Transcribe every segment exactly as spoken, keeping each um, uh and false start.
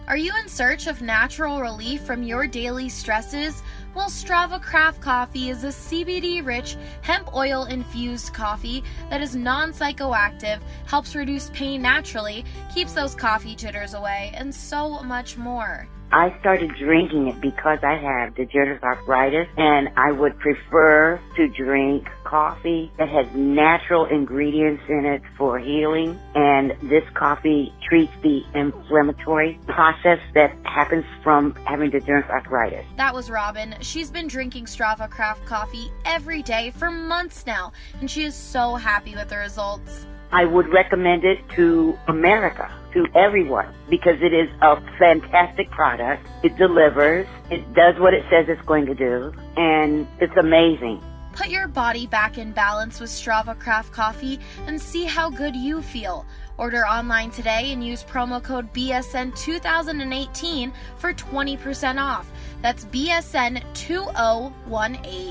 Are you in search of natural relief from your daily stresses? Well, Strava Craft Coffee is a C B D-rich, hemp oil-infused coffee that is non-psychoactive, helps reduce pain naturally, keeps those coffee jitters away, and so much more. I started drinking it because I have degenerative arthritis, and I would prefer to drink coffee that has natural ingredients in it for healing, and this coffee treats the inflammatory process that happens from having degenerative arthritis. That was Robin. She's been drinking Strava Craft Coffee every day for months now, and she is so happy with the results. I would recommend it to America, to everyone, because it is a fantastic product. It delivers. It does what it says it's going to do, and it's amazing. Put your body back in balance with Strava Craft Coffee and see how good you feel. Order online today and use promo code B S N two thousand eighteen for twenty percent off. That's B S N two thousand eighteen.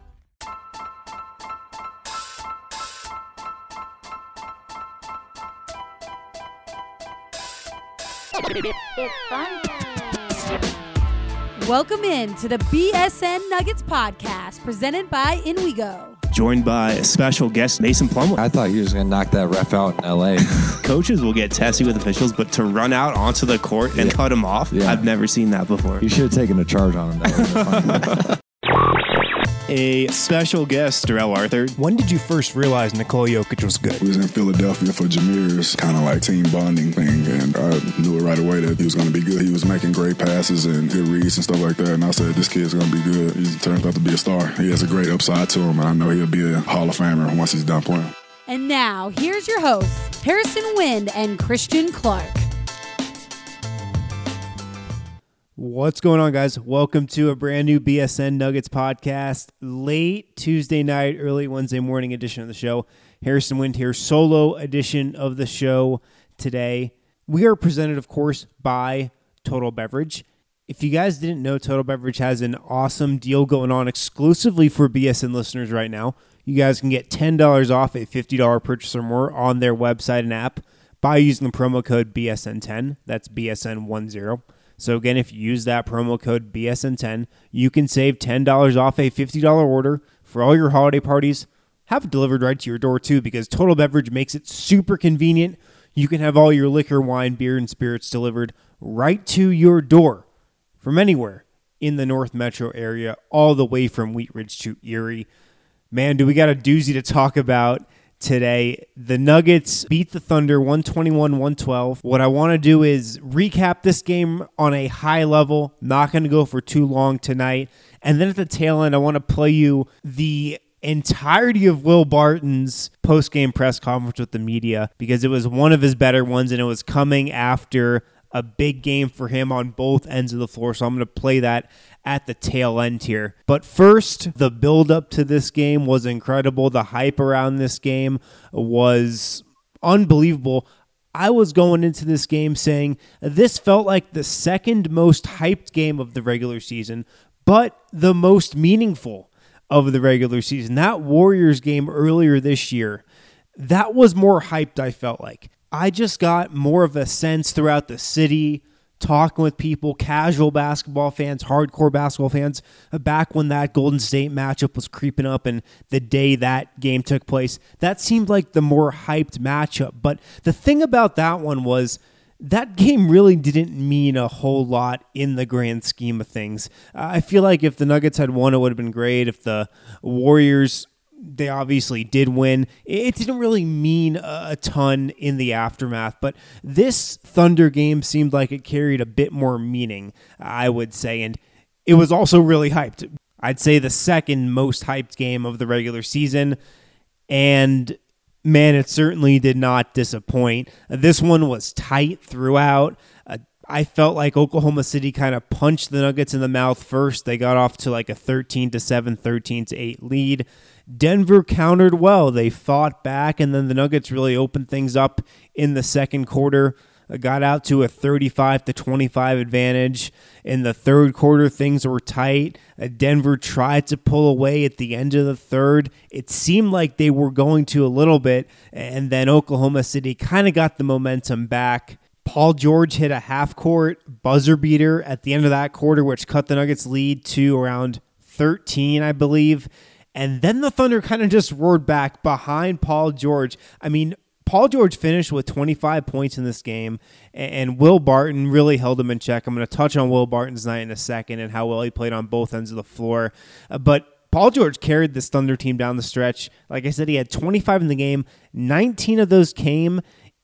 It's fun. Welcome in to the B S N Nuggets podcast presented by InWeGo. Joined by a special guest, Mason Plumlee. I thought he was going to knock that ref out in L A. Coaches will get testy with officials, but to run out onto the court and yeah. cut him off, yeah. I've never seen that before. You should have taken a charge on him. That A special guest, Darrell Arthur. When did you first realize Nikola Jokic was good? We was in Philadelphia for Jameer's kind of like team bonding thing, and I knew it right away that he was going to be good. He was making great passes and good reads and stuff like that, and I said, this kid's going to be good. He turns out to be a star. He has a great upside to him, and I know he'll be a Hall of Famer once he's done playing. And now, here's your hosts, Harrison Wind and Christian Clark. What's going on, guys? Welcome to a brand new B S N Nuggets podcast. Late Tuesday night, early Wednesday morning edition of the show. Harrison Wind here, solo edition of the show today. We are presented, of course, by Total Beverage. If you guys didn't know, Total Beverage has an awesome deal going on exclusively for B S N listeners right now. You guys can get ten dollars off a fifty dollars purchase or more on their website and app by using the promo code B S N ten. That's B S N ten. So again, if you use that promo code B S N ten, you can save ten dollars off a fifty dollars order for all your holiday parties. Have it delivered right to your door too, because Total Beverage makes it super convenient. You can have all your liquor, wine, beer, and spirits delivered right to your door from anywhere in the North Metro area, all the way from Wheat Ridge to Erie. Man, do we got a doozy to talk about today. The Nuggets beat the Thunder one twenty-one to one twelve. What I want to do is recap this game on a high level. Not going to go for too long tonight. And then at the tail end, I want to play you the entirety of Will Barton's post-game press conference with the media, because it was one of his better ones, and it was coming after a big game for him on both ends of the floor. So I'm going to play that at the tail end here. But first, the build-up to this game was incredible. The hype around this game was unbelievable. I was going into this game saying this felt like the second most hyped game of the regular season, but the most meaningful of the regular season. That Warriors game earlier this year, that was more hyped, I felt like. I just got more of a sense throughout the city, talking with people, casual basketball fans, hardcore basketball fans, back when that Golden State matchup was creeping up and the day that game took place. That seemed like the more hyped matchup. But the thing about that one was that game really didn't mean a whole lot in the grand scheme of things. I feel like if the Nuggets had won, it would have been great. If the Warriors, they obviously did win, it didn't really mean a ton in the aftermath, but this Thunder game seemed like it carried a bit more meaning, I would say, and it was also really hyped. I'd say the second most hyped game of the regular season, and man, it certainly did not disappoint. This one was tight throughout. Uh, I felt like Oklahoma City kind of punched the Nuggets in the mouth first. They got off to like a thirteen to seven, thirteen to eight lead. Denver countered well. They fought back, and then the Nuggets really opened things up in the second quarter. Got out to a thirty-five to twenty-five advantage. In the third quarter, things were tight. Denver tried to pull away at the end of the third. It seemed like they were going to a little bit, and then Oklahoma City kind of got the momentum back. Paul George hit a half-court buzzer beater at the end of that quarter, which cut the Nuggets' lead to around thirteen, I believe. And then the Thunder kind of just roared back behind Paul George. I mean, Paul George finished with twenty-five points in this game, and Will Barton really held him in check. I'm going to touch on Will Barton's night in a second and how well he played on both ends of the floor. Uh, but Paul George carried this Thunder team down the stretch. Like I said, he had twenty-five in the game. nineteen of those came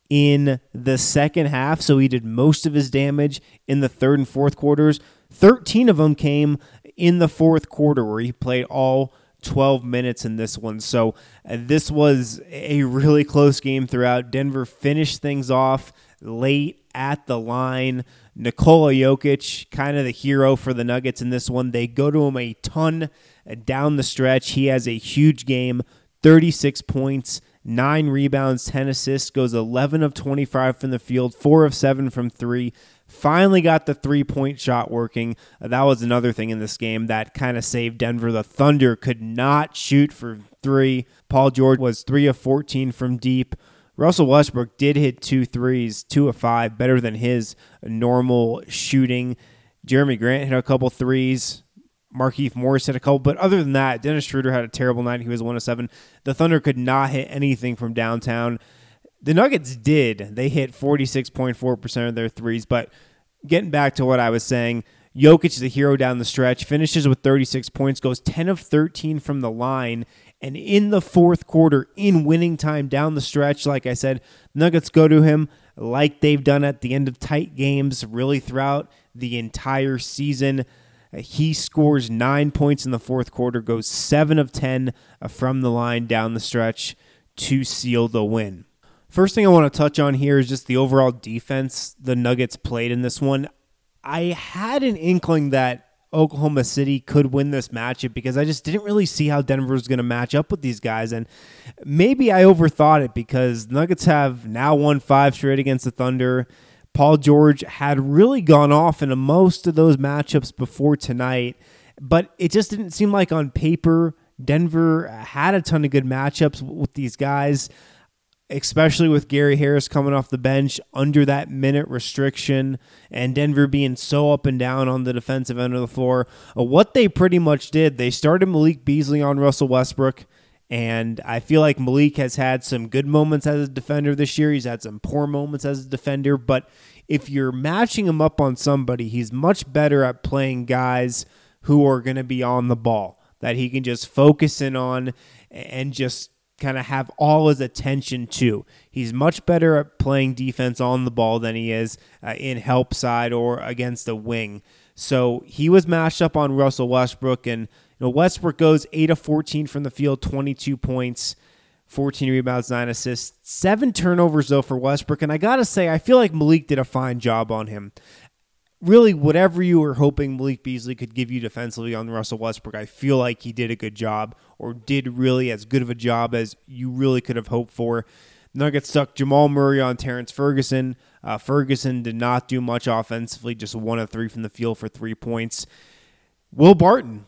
in the second half, so he did most of his damage in the third and fourth quarters. thirteen of them came in the fourth quarter, where he played all twelve minutes in this one. So uh, this was a really close game throughout. Denver finished things off late at the line. Nikola Jokic, kind of the hero for the Nuggets in this one. They go to him a ton down the stretch. He has a huge game, thirty-six points, nine rebounds, ten assists, goes eleven of twenty-five from the field, four of seven from three. Finally got the three-point shot working. Uh, that was another thing in this game that kind of saved Denver. The Thunder could not shoot for three. Paul George was three of fourteen from deep. Russell Westbrook did hit two threes, two of five, better than his normal shooting. Jeremy Grant hit a couple threes. Markieff Morris hit a couple, but other than that, Dennis Schroeder had a terrible night. He was one of seven. The Thunder could not hit anything from downtown. The Nuggets did. They hit forty-six point four percent of their threes, but getting back to what I was saying, Jokic is a hero down the stretch, finishes with thirty-six points, goes ten of thirteen from the line, and in the fourth quarter, in winning time down the stretch, like I said, Nuggets go to him like they've done at the end of tight games, really throughout the entire season. He scores nine points in the fourth quarter, goes seven of ten from the line down the stretch to seal the win. First thing I want to touch on here is just the overall defense the Nuggets played in this one. I had an inkling that Oklahoma City could win this matchup because I just didn't really see how Denver was going to match up with these guys. And maybe I overthought it because Nuggets have now won five straight against the Thunder. Paul George had really gone off in most of those matchups before tonight, but it just didn't seem like on paper Denver had a ton of good matchups with these guys, especially with Gary Harris coming off the bench under that minute restriction and Denver being so up and down on the defensive end of the floor. Uh, what they pretty much did, they started Malik Beasley on Russell Westbrook, and I feel like Malik has had some good moments as a defender this year. He's had some poor moments as a defender, but if you're matching him up on somebody, he's much better at playing guys who are going to be on the ball, that he can just focus in on and just kind of have all his attention to. He's much better at playing defense on the ball than he is uh, in help side or against a wing. So he was matched up on Russell Westbrook, and you know, Westbrook goes eight of fourteen from the field, twenty-two points, fourteen rebounds, nine assists, seven turnovers though for Westbrook. And I got to say, I feel like Malik did a fine job on him. Really, whatever you were hoping Malik Beasley could give you defensively on Russell Westbrook, I feel like he did a good job, or did really as good of a job as you really could have hoped for. Nuggets stuck Jamal Murray on Terrence Ferguson. Uh, Ferguson did not do much offensively, just one of three from the field for three points. Will Barton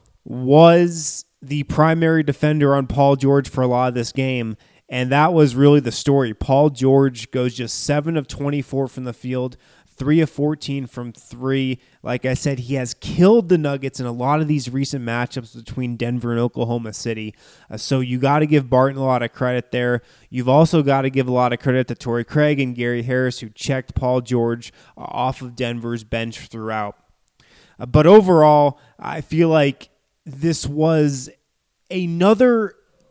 was the primary defender on Paul George for a lot of this game, and that was really the story. Paul George goes just seven of twenty-four from the field, three of fourteen from three. Like I said, he has killed the Nuggets in a lot of these recent matchups between Denver and Oklahoma City. Uh, so you got to give Barton a lot of credit there. You've also got to give a lot of credit to Torrey Craig and Gary Harris, who checked Paul George uh, off of Denver's bench throughout. Uh, but overall, I feel like this was another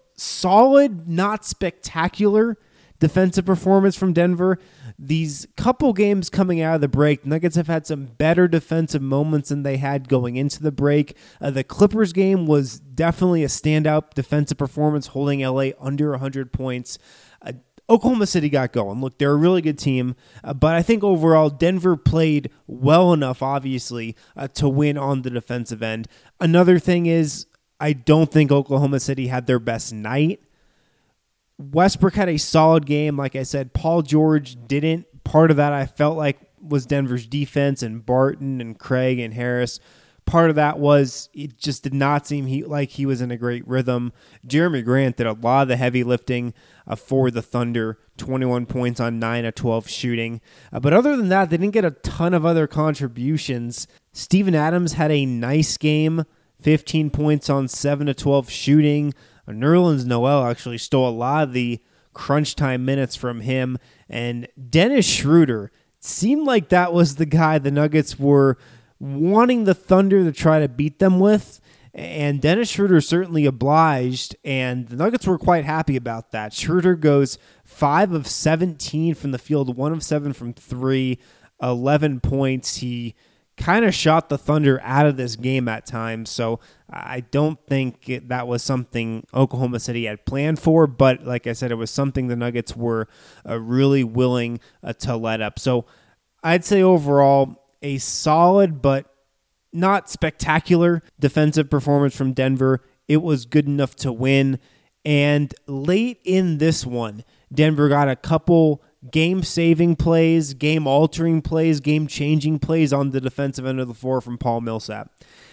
solid, not spectacular defensive performance from Denver. These couple games coming out of the break, Nuggets have had some better defensive moments than they had going into the break. Uh, the Clippers game was definitely a standout defensive performance, holding L A under one hundred points. Uh, Oklahoma City got going. Look, they're a really good team, uh, but I think overall Denver played well enough, obviously, uh, to win on the defensive end. Another thing is, I don't think Oklahoma City had their best night. Westbrook had a solid game. Like I said, Paul George didn't. Part of that I felt like was Denver's defense and Barton and Craig and Harris part of that was it just did not seem he, like he was in a great rhythm. Jeremy Grant did a lot of the heavy lifting uh, for the Thunder, twenty-one points on nine of twelve shooting. Uh, but other than that, they didn't get a ton of other contributions. Steven Adams had a nice game, fifteen points on seven of twelve shooting. Uh, Nerlens Noel actually stole a lot of the crunch time minutes from him. And Dennis Schroeder, seemed like that was the guy the Nuggets were wanting the Thunder to try to beat them with, and Dennis Schroeder certainly obliged, and the Nuggets were quite happy about that. Schroeder goes five of seventeen from the field, one of seven from three, eleven points. He kind of shot the Thunder out of this game at times, so I don't think it, that was something Oklahoma City had planned for, but like I said, it was something the Nuggets were uh, really willing uh, to let up. So I'd say overall, a solid but not spectacular defensive performance from Denver. It was good enough to win. And late in this one, Denver got a couple game-saving plays, game-altering plays, game-changing plays on the defensive end of the floor from Paul Millsap.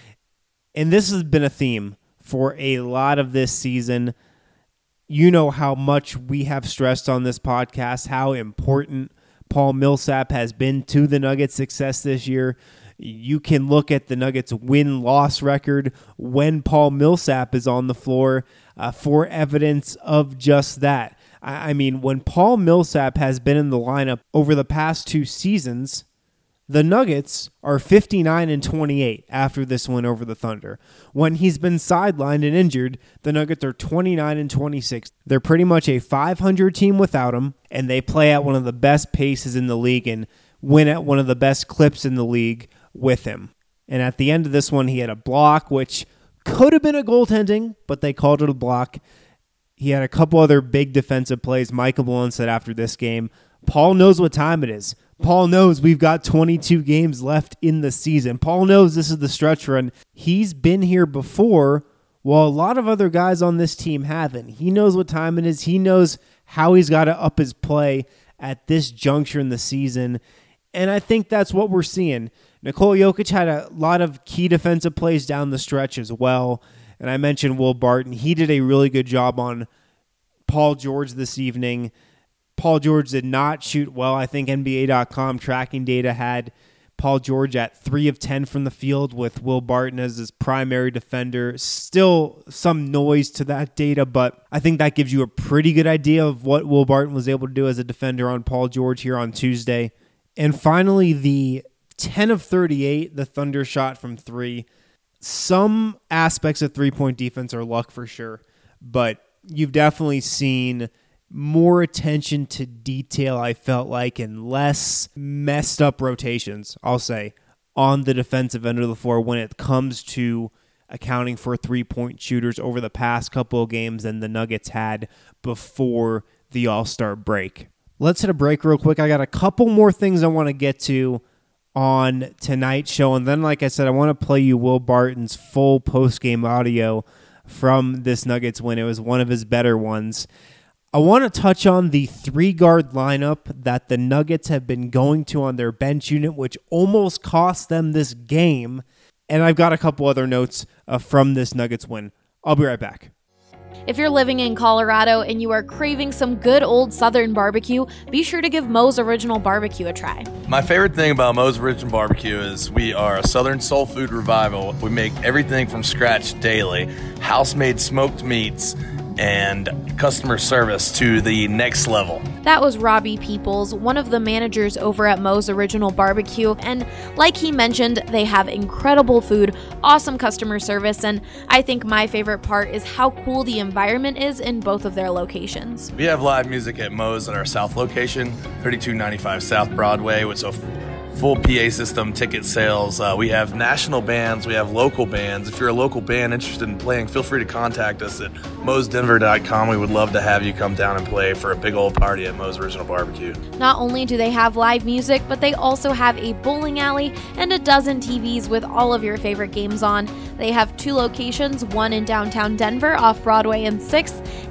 And this has been a theme for a lot of this season. You know how much we have stressed on this podcast, how important Paul Millsap has been to the Nuggets' success this year. You can look at the Nuggets' win-loss record when Paul Millsap is on the floor uh, for evidence of just that. I, I mean, when Paul Millsap has been in the lineup over the past two seasons, the Nuggets are fifty-nine and twenty-eight after this win over the Thunder. When he's been sidelined and injured, the Nuggets are twenty-nine and twenty-six. They're pretty much a five hundred team without him, and they play at one of the best paces in the league and win at one of the best clips in the league with him. And at the end of this one, he had a block, which could have been a goaltending, but they called it a block. He had a couple other big defensive plays. Michael Malone said after this game, Paul knows what time it is. Paul knows we've got twenty-two games left in the season. Paul knows this is the stretch run. He's been here before, while a lot of other guys on this team haven't. He knows what time it is. He knows how he's got to up his play at this juncture in the season. And I think that's what we're seeing. Nikola Jokic had a lot of key defensive plays down the stretch as well. And I mentioned Will Barton. He did a really good job on Paul George this evening. Paul George did not shoot well. I think N B A dot com tracking data had Paul George at three of ten from the field with Will Barton as his primary defender. Still some noise to that data, but I think that gives you a pretty good idea of what Will Barton was able to do as a defender on Paul George here on Tuesday. And finally, the ten of thirty-eight, the Thunder shot from three. Some aspects of three-point defense are luck for sure, but you've definitely seen more attention to detail, I felt like, and less messed up rotations, I'll say, on the defensive end of the floor when it comes to accounting for three-point shooters over the past couple of games than the Nuggets had before the All-Star break. Let's hit a break real quick. I got a couple more things I want to get to on tonight's show, and then, like I said, I want to play you Will Barton's full post-game audio from this Nuggets win. It was one of his better ones. I want to touch on the three-guard lineup that the Nuggets have been going to on their bench unit, which almost cost them this game. And I've got a couple other notes uh, from this Nuggets win. I'll be right back. If you're living in Colorado and you are craving some good old Southern barbecue, be sure to give Moe's Original Barbecue a try. My favorite thing about Moe's Original Barbecue is we are a Southern soul food revival. We make everything from scratch daily, house-made smoked meats, and customer service to the next level. That was Robbie Peoples, one of the managers over at Moe's Original Barbecue, and like he mentioned, they have incredible food, awesome customer service, and I think my favorite part is how cool the environment is in both of their locations. We have live music at Moe's at our South location, thirty-two ninety-five South Broadway, with a full P A system, ticket sales. Uh, we have national bands. We have local bands. If you're a local band interested in playing, feel free to contact us at moes denver dot com. We would love to have you come down and play for a big old party at Moe's Original Barbecue. Not only do they have live music, but they also have a bowling alley and a dozen T Vs with all of your favorite games on. They have two locations, one in downtown Denver off Broadway and sixth,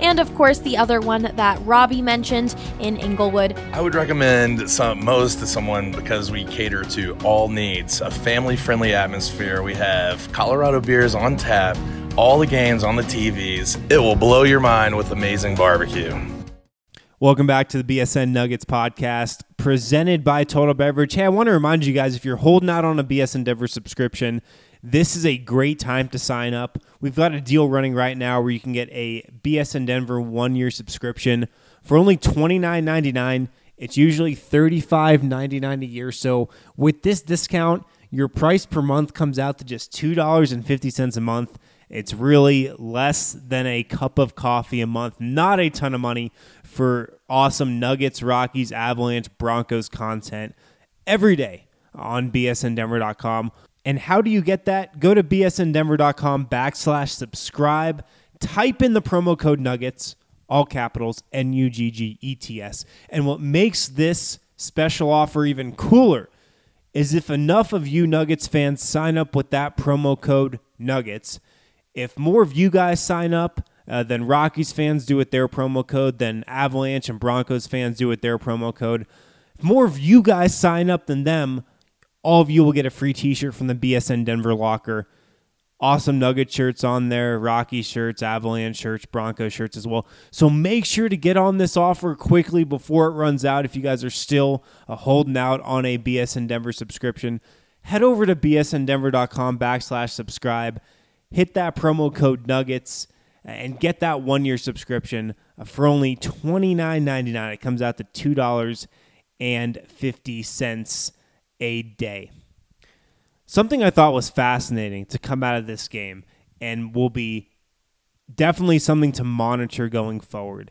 and of course the other one that Robbie mentioned in Inglewood. I would recommend some Moe's to someone because we cater to all needs. A family-friendly atmosphere. We have Colorado beers on tap, all the games on the T Vs. It will blow your mind with amazing barbecue. Welcome back to the B S N Nuggets podcast presented by Total Beverage. Hey, I want to remind you guys, if you're holding out on a B S N Denver subscription, this is a great time to sign up. We've got a deal running right now where you can get a B S N Denver one-year subscription for only twenty-nine ninety-nine. It's usually thirty-five ninety-nine a year. So with this discount, your price per month comes out to just two dollars and fifty cents a month. It's really less than a cup of coffee a month. Not a ton of money for awesome Nuggets, Rockies, Avalanche, Broncos content every day on B S N Denver dot com. And how do you get that? Go to B S N Denver dot com backslash subscribe. Type in the promo code Nuggets, all capitals, N U G G E T S. And what makes this special offer even cooler is if enough of you Nuggets fans sign up with that promo code Nuggets, if more of you guys sign up uh, than Rockies fans do with their promo code, then Avalanche and Broncos fans do with their promo code, if more of you guys sign up than them, all of you will get a free t-shirt from the B S N Denver locker. Awesome Nugget shirts on there, Rocky shirts, Avalanche shirts, Bronco shirts as well. So make sure to get on this offer quickly before it runs out. If you guys are still uh, holding out on a B S N Denver subscription, head over to B S N Denver dot com backslash subscribe. Hit that promo code Nuggets and get that one-year subscription for only twenty-nine ninety-nine. It comes out to two dollars and fifty cents a day. Something I thought was fascinating to come out of this game and will be definitely something to monitor going forward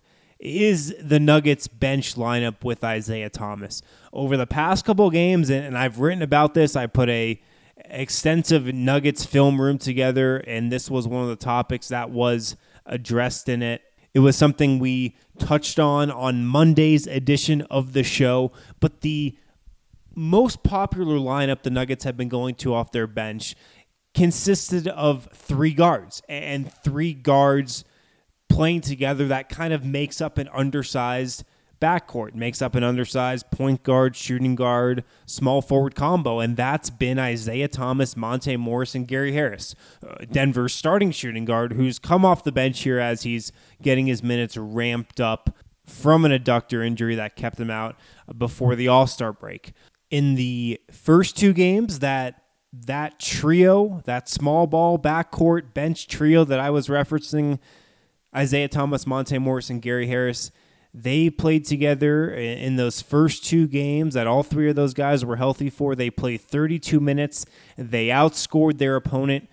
is the Nuggets bench lineup with Isaiah Thomas. Over the past couple of games, and I've written about this, I put a extensive Nuggets film room together, and this was one of the topics that was addressed in it. It was something we touched on on Monday's edition of the show, but the most popular lineup the Nuggets have been going to off their bench consisted of three guards, and three guards playing together that kind of makes up an undersized backcourt, makes up an undersized point guard, shooting guard, small forward combo, and that's been Isaiah Thomas, Monte Morris, and Gary Harris. Uh, Denver's starting shooting guard, who's come off the bench here as he's getting his minutes ramped up from an adductor injury that kept him out before the All-Star break. In the first two games, that that trio, that small ball backcourt bench trio that I was referencing, Isaiah Thomas, Monte Morris, and Gary Harris, they played together in those first two games that all three of those guys were healthy for. They played thirty-two minutes. They outscored their opponent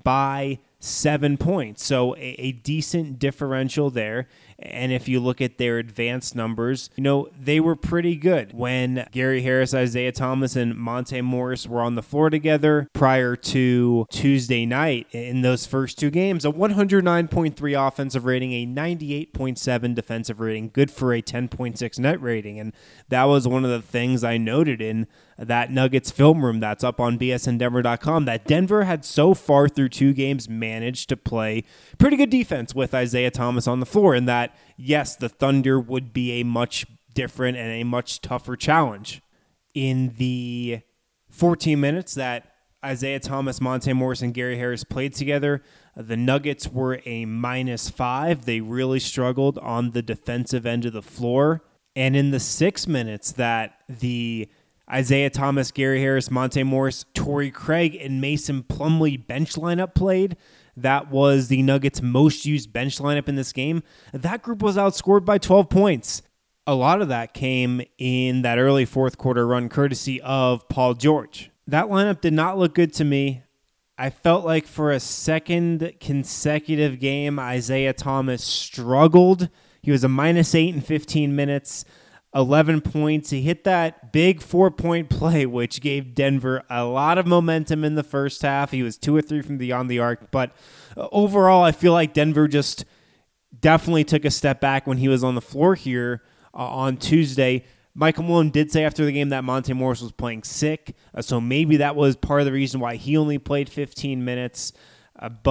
by seven points. So a, a decent differential there. And if you look at their advanced numbers, you know, they were pretty good when Gary Harris, Isaiah Thomas, and Monte Morris were on the floor together prior to Tuesday night. In those first two games, a one hundred nine point three offensive rating, a ninety-eight point seven defensive rating, good for a ten point six net rating. And that was one of the things I noted in that Nuggets film room that's up on B S N Denver dot com, that Denver had so far through two games managed to play pretty good defense with Isaiah Thomas on the floor, and that, yes, the Thunder would be a much different and a much tougher challenge. In the fourteen minutes that Isaiah Thomas, Monte Morris, and Gary Harris played together, the Nuggets were a minus five. They really struggled on the defensive end of the floor. And in the six minutes that the Isaiah Thomas, Gary Harris, Monte Morris, Torrey Craig, and Mason Plumlee bench lineup played, that was the Nuggets' most used bench lineup in this game. That group was outscored by twelve points. A lot of that came in that early fourth quarter run, courtesy of Paul George. That lineup did not look good to me. I felt like for a second consecutive game, Isaiah Thomas struggled. He was a minus eight in fifteen minutes. eleven points. He hit that big four-point play, which gave Denver a lot of momentum in the first half. He was two or three from beyond the arc, but overall, I feel like Denver just definitely took a step back when he was on the floor here uh, on Tuesday. Michael Malone did say after the game that Monte Morris was playing sick, uh, so maybe that was part of the reason why he only played fifteen minutes, uh, but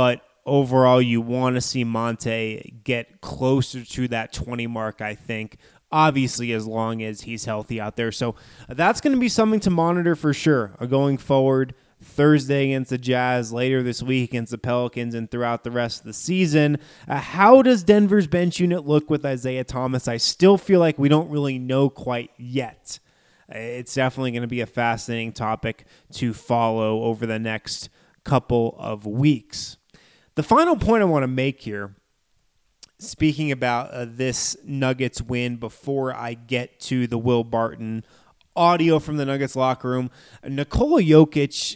overall, you want to see Monte get closer to that twenty mark, I think, obviously as long as he's healthy out there. So that's going to be something to monitor for sure going forward. Thursday against the Jazz, later this week against the Pelicans, and throughout the rest of the season. Uh, how does Denver's bench unit look with Isaiah Thomas? I still feel like we don't really know quite yet. It's definitely going to be a fascinating topic to follow over the next couple of weeks. The final point I want to make here, speaking about uh, this Nuggets win before I get to the Will Barton audio from the Nuggets locker room, Nikola Jokic,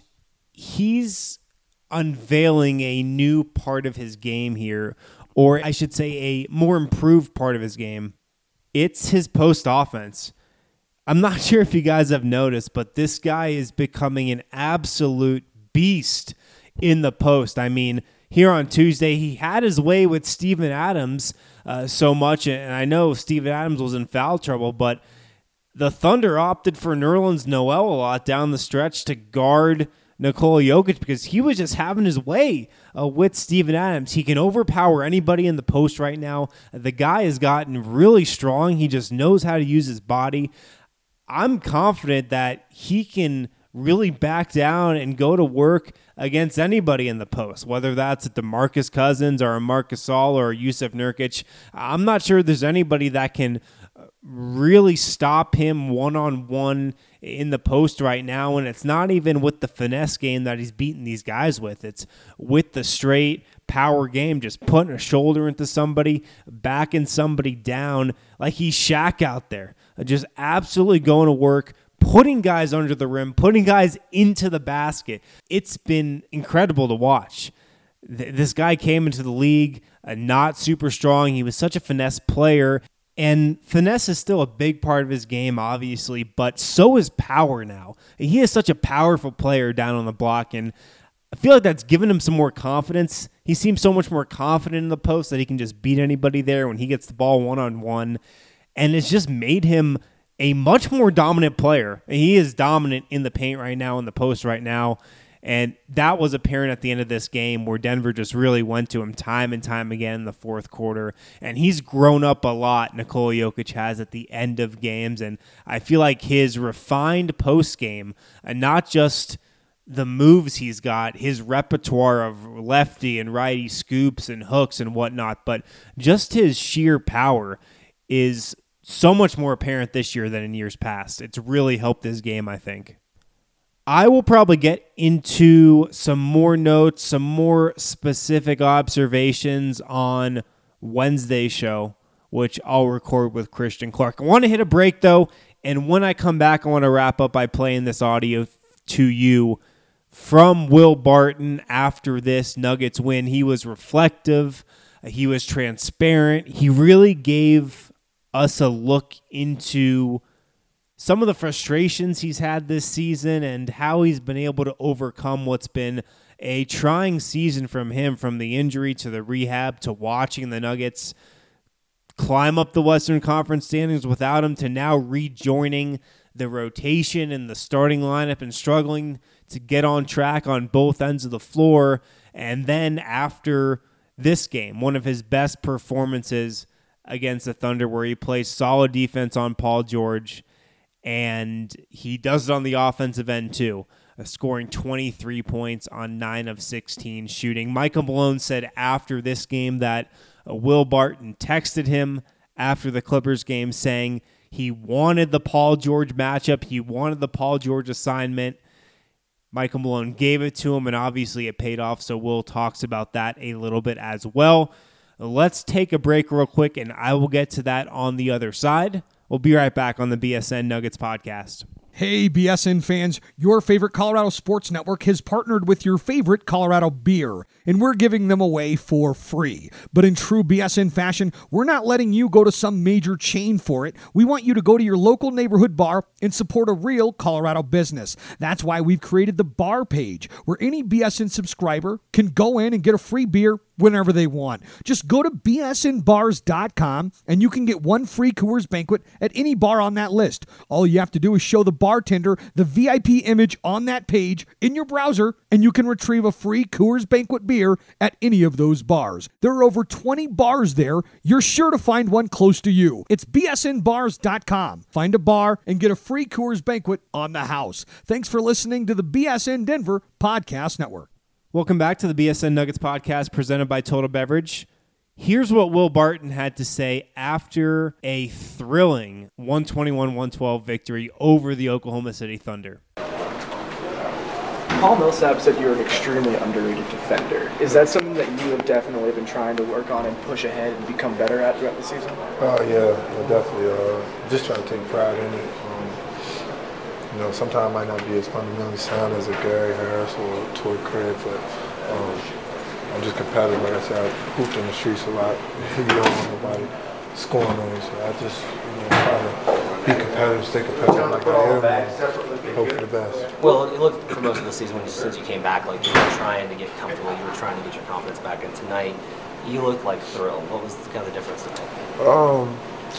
he's unveiling a new part of his game here, or I should say a more improved part of his game. It's his post offense. I'm not sure if you guys have noticed, but this guy is becoming an absolute beast in the post. I mean, here on Tuesday, he had his way with Steven Adams uh, so much, and I know Steven Adams was in foul trouble, but the Thunder opted for Nerlens Noel a lot down the stretch to guard Nikola Jokic because he was just having his way uh, with Steven Adams. He can overpower anybody in the post right now. The guy has gotten really strong. He just knows how to use his body. I'm confident that he can really back down and go to work against anybody in the post, whether that's a DeMarcus Cousins or a Marcus Gasol or a Yusuf Nurkic. I'm not sure there's anybody that can really stop him one-on-one in the post right now, and it's not even with the finesse game that he's beating these guys with. It's with the straight power game, just putting a shoulder into somebody, backing somebody down like he's Shaq out there, just absolutely going to work, putting guys under the rim, putting guys into the basket. It's been incredible to watch. This guy came into the league uh, not super strong. He was such a finesse player, and finesse is still a big part of his game, obviously, but so is power now. He is such a powerful player down on the block, and I feel like that's given him some more confidence. He seems so much more confident in the post that he can just beat anybody there when he gets the ball one-on-one, and it's just made him a much more dominant player. He is dominant in the paint right now, in the post right now, and that was apparent at the end of this game where Denver just really went to him time and time again in the fourth quarter. And he's grown up a lot, Nikola Jokic has, at the end of games. And I feel like his refined post game, and not just the moves he's got, his repertoire of lefty and righty scoops and hooks and whatnot, but just his sheer power is so much more apparent this year than in years past. It's really helped his game, I think. I will probably get into some more notes, some more specific observations on Wednesday's show, which I'll record with Christian Clark. I want to hit a break, though, and when I come back, I want to wrap up by playing this audio to you from Will Barton after this Nuggets win. He was reflective. He was transparent. He really gave us a look into some of the frustrations he's had this season and how he's been able to overcome what's been a trying season from him, from the injury to the rehab to watching the Nuggets climb up the Western Conference standings without him to now rejoining the rotation and the starting lineup and struggling to get on track on both ends of the floor. And then after this game, one of his best performances against the Thunder, where he plays solid defense on Paul George, and he does it on the offensive end too, uh, scoring twenty-three points on nine of sixteen shooting. Michael Malone said after this game that uh, Will Barton texted him after the Clippers game saying he wanted the Paul George matchup, he wanted the Paul George assignment. Michael Malone gave it to him, and obviously it paid off, so Will talks about that a little bit as well. Let's take a break real quick, and I will get to that on the other side. We'll be right back on the B S N Nuggets podcast. Hey, B S N fans, your favorite Colorado Sports Network has partnered with your favorite Colorado beer, and we're giving them away for free. But in true B S N fashion, we're not letting you go to some major chain for it. We want you to go to your local neighborhood bar and support a real Colorado business. That's why we've created the bar page, where any B S N subscriber can go in and get a free beer whenever they want. Just go to B S N bars dot com and you can get one free Coors Banquet at any bar on that list. All you have to do is show the bartender the V I P image on that page in your browser, and you can retrieve a free Coors Banquet beer at any of those bars. There are over twenty bars there. You're sure to find one close to you. It's B S N bars dot com. Find a bar and get a free Coors Banquet on the house. Thanks for listening to the B S N Denver Podcast Network. Welcome back to the B S N Nuggets podcast presented by Total Beverage. Here's what Will Barton had to say after a thrilling one twenty-one one twelve victory over the Oklahoma City Thunder. Paul Millsap said you're an extremely underrated defender. Is that something that you have definitely been trying to work on and push ahead and become better at throughout the season? Oh, uh, yeah, I definitely. Uh, just trying to take pride in it. Um, you know, sometimes it might not be as fundamentally sound as a Gary Harris or Torrey Craig, but um, I'm just competitive. Like I said, I hooped in the streets a lot. You don't want nobody scoring on you, so I just, you know, try to be competitive, stay competitive like I am, and hope for the best. Well, it looked for most of the season when, since you came back, like you were trying to get comfortable, you were trying to get your confidence back, and tonight you looked like thrilled. What was kind of the difference tonight? Um,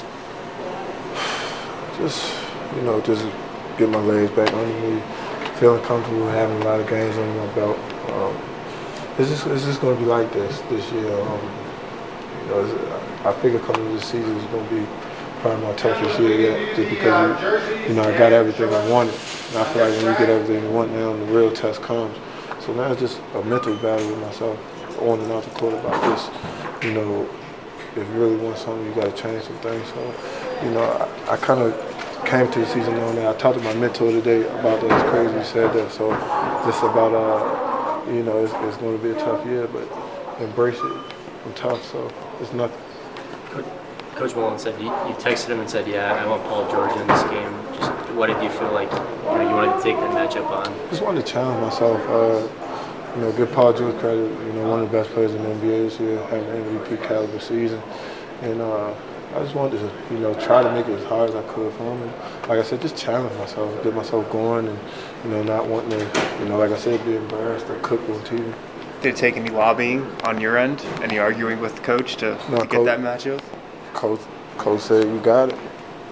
just, you know, just get my legs back under me, feeling comfortable, having a lot of games under my belt. Um, it's just, it's just going to be like this this year. Um, you know, I figured coming into the season was going to be probably my toughest year yet, just because, you, you know, I got everything I wanted. And I feel like when you get everything you want now, the real test comes. So now it's just a mental battle with myself, on and off the court about this. You know, if you really want something, you got to change some things. So, you know, I, I kind of came to the season knowing that. I talked to my mentor today about that. It's crazy you said that. So just about, uh, you know, it's, it's going to be a tough year, but embrace it. I'm tough, so it's nothing. Coach Malone said you, you texted him and said, "Yeah, I want Paul George in this game." Just what did you feel like you know you wanted to take that matchup on? Just wanted to challenge myself. Uh, you know, give Paul George credit. You know, one of the best players in the N B A this year, having an M V P caliber season, and uh, I just wanted to, you know, try to make it as hard as I could for him. And like I said, just challenge myself, get myself going, and you know, not wanting to, you know, like I said, be embarrassed or cook on T V. Did it take any lobbying on your end, any arguing with the coach to, no, to get coach, that matchup? Coach, coach said you got it.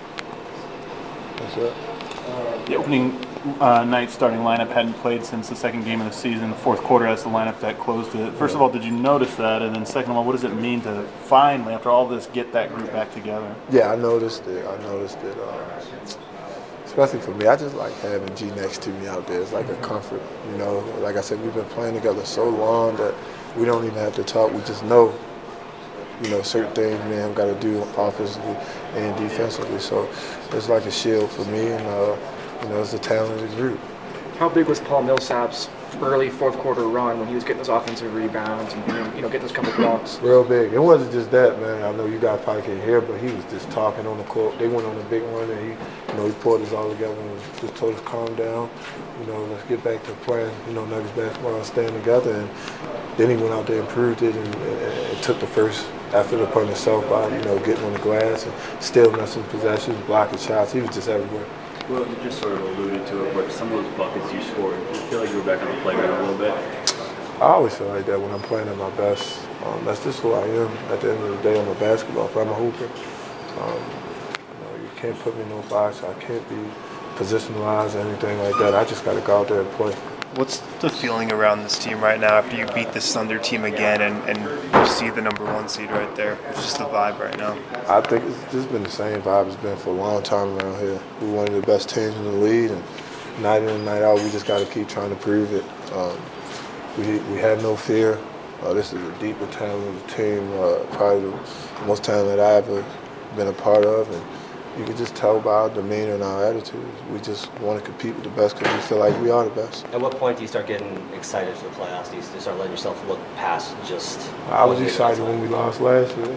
That's it. Uh, the opening uh, night starting lineup hadn't played since the second game of the season. The fourth quarter, that's the lineup that closed it. First of all, did you notice that? And then second of all, what does it mean to finally, after all this, get that group back together? Yeah, I noticed it. I noticed it. Uh, especially for me, I just like having G next to me out there. It's like a comfort, you know. Like I said, we've been playing together so long that we don't even have to talk. We just know, you know, certain things we have got to do offensively and defensively. So it's like a shield for me, and uh, you know, it's a talented group. How big was Paul Millsap's early fourth quarter run when he was getting those offensive rebounds and you know getting those couple blocks? Real big. It wasn't just that, man. I know you guys probably can't hear, but he was just talking on the court. They went on a big run, and he, you know, he pulled us all together and just told us calm down. You know, let's get back to playing, you know, Nuggets basketball and staying together. And then he went out there and proved it, and, and, and took the first after the opponent himself by, you know, getting on the glass and still messing possessions, blocking shots. He was just everywhere. Well, you just sort of alluded to it, but some of those buckets you scored, do you feel like you were back on the playground a little bit? I always feel like that when I'm playing at my best. Um, that's just who I am. At the end of the day, I'm a basketball player. I'm a hooper. Um, you know, you can't put me in no box. I can't be positionalized or anything like that. I just got to go out there and play. What's the feeling around this team right now after you beat this Thunder team again and, and you see the number one seed right there? It's just the vibe right now. I think it's just been the same vibe it's been for a long time around here. We're one of the best teams in the league, and night in and night out, we just got to keep trying to prove it. Um, we we have no fear. Uh, this is a deeper talented team, uh, probably the most talented I've ever been a part of, and you can just tell by our demeanor and our attitudes. We just want to compete with the best because we feel like we are the best. At what point do you start getting excited for the playoffs? Do you start letting yourself look past just... I was excited when we lost last year.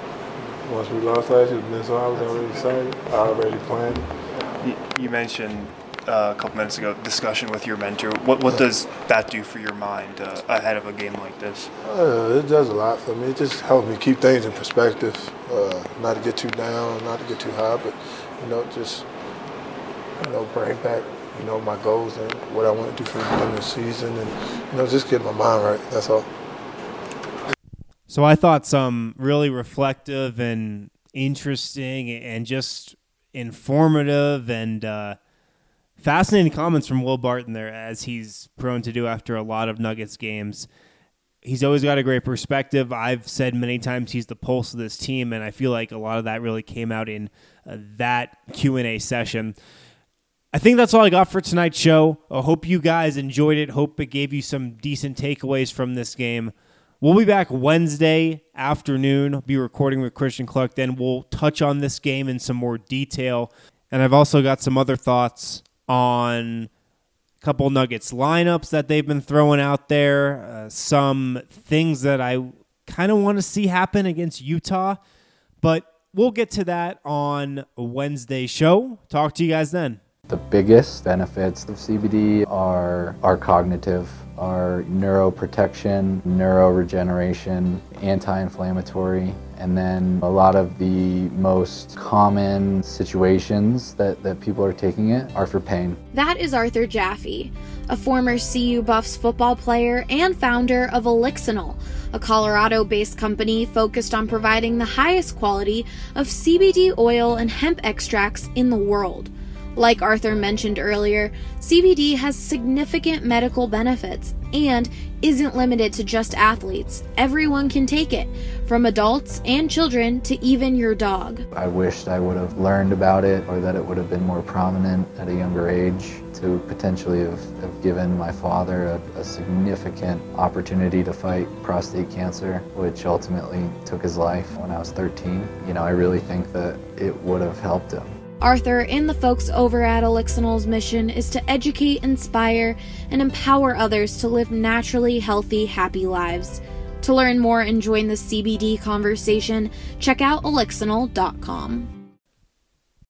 Once we lost last year, so I was already excited. I already planned. You, you mentioned uh, a couple minutes ago discussion with your mentor. What what does that do for your mind uh, ahead of a game like this? Uh, it does a lot for me. It just helps me keep things in perspective. Uh, not to get too down, not to get too high, but you know, just you know, bring back you know my goals and what I want to do for the this season, and you know, just get my mind right. That's all. So I thought some really reflective and interesting and just informative and uh, Fascinating comments from Will Barton there, as he's prone to do after a lot of Nuggets games. He's always got a great perspective. I've said many times he's the pulse of this team, and I feel like a lot of that really came out in uh, that Q and A session. I think that's all I got for tonight's show. I hope you guys enjoyed it. Hope it gave you some decent takeaways from this game. We'll be back Wednesday afternoon. I'll be recording with Christian Clark. Then we'll touch on this game in some more detail. And I've also got some other thoughts on a couple Nuggets lineups that they've been throwing out there, uh, some things that I kind of want to see happen against Utah, but we'll get to that on Wednesday's show. Talk to you guys then. The biggest benefits of C B D are, are cognitive, are neuroprotection, neuroregeneration, anti-inflammatory, and then a lot of the most common situations that, that people are taking it are for pain. That is Arthur Jaffe, a former C U Buffs football player and founder of Elixinol, a Colorado-based company focused on providing the highest quality of C B D oil and hemp extracts in the world. Like Arthur mentioned earlier, C B D has significant medical benefits and isn't limited to just athletes. Everyone can take it, from adults and children to even your dog. I wished I would have learned about it, or that it would have been more prominent at a younger age, to potentially have, have given my father a, a significant opportunity to fight prostate cancer, which ultimately took his life when I was thirteen. You know, I really think that it would have helped him. Arthur and the folks over at Elixinol's mission is to educate, inspire, and empower others to live naturally healthy, happy lives. To learn more and join the C B D conversation, check out elixinol dot com.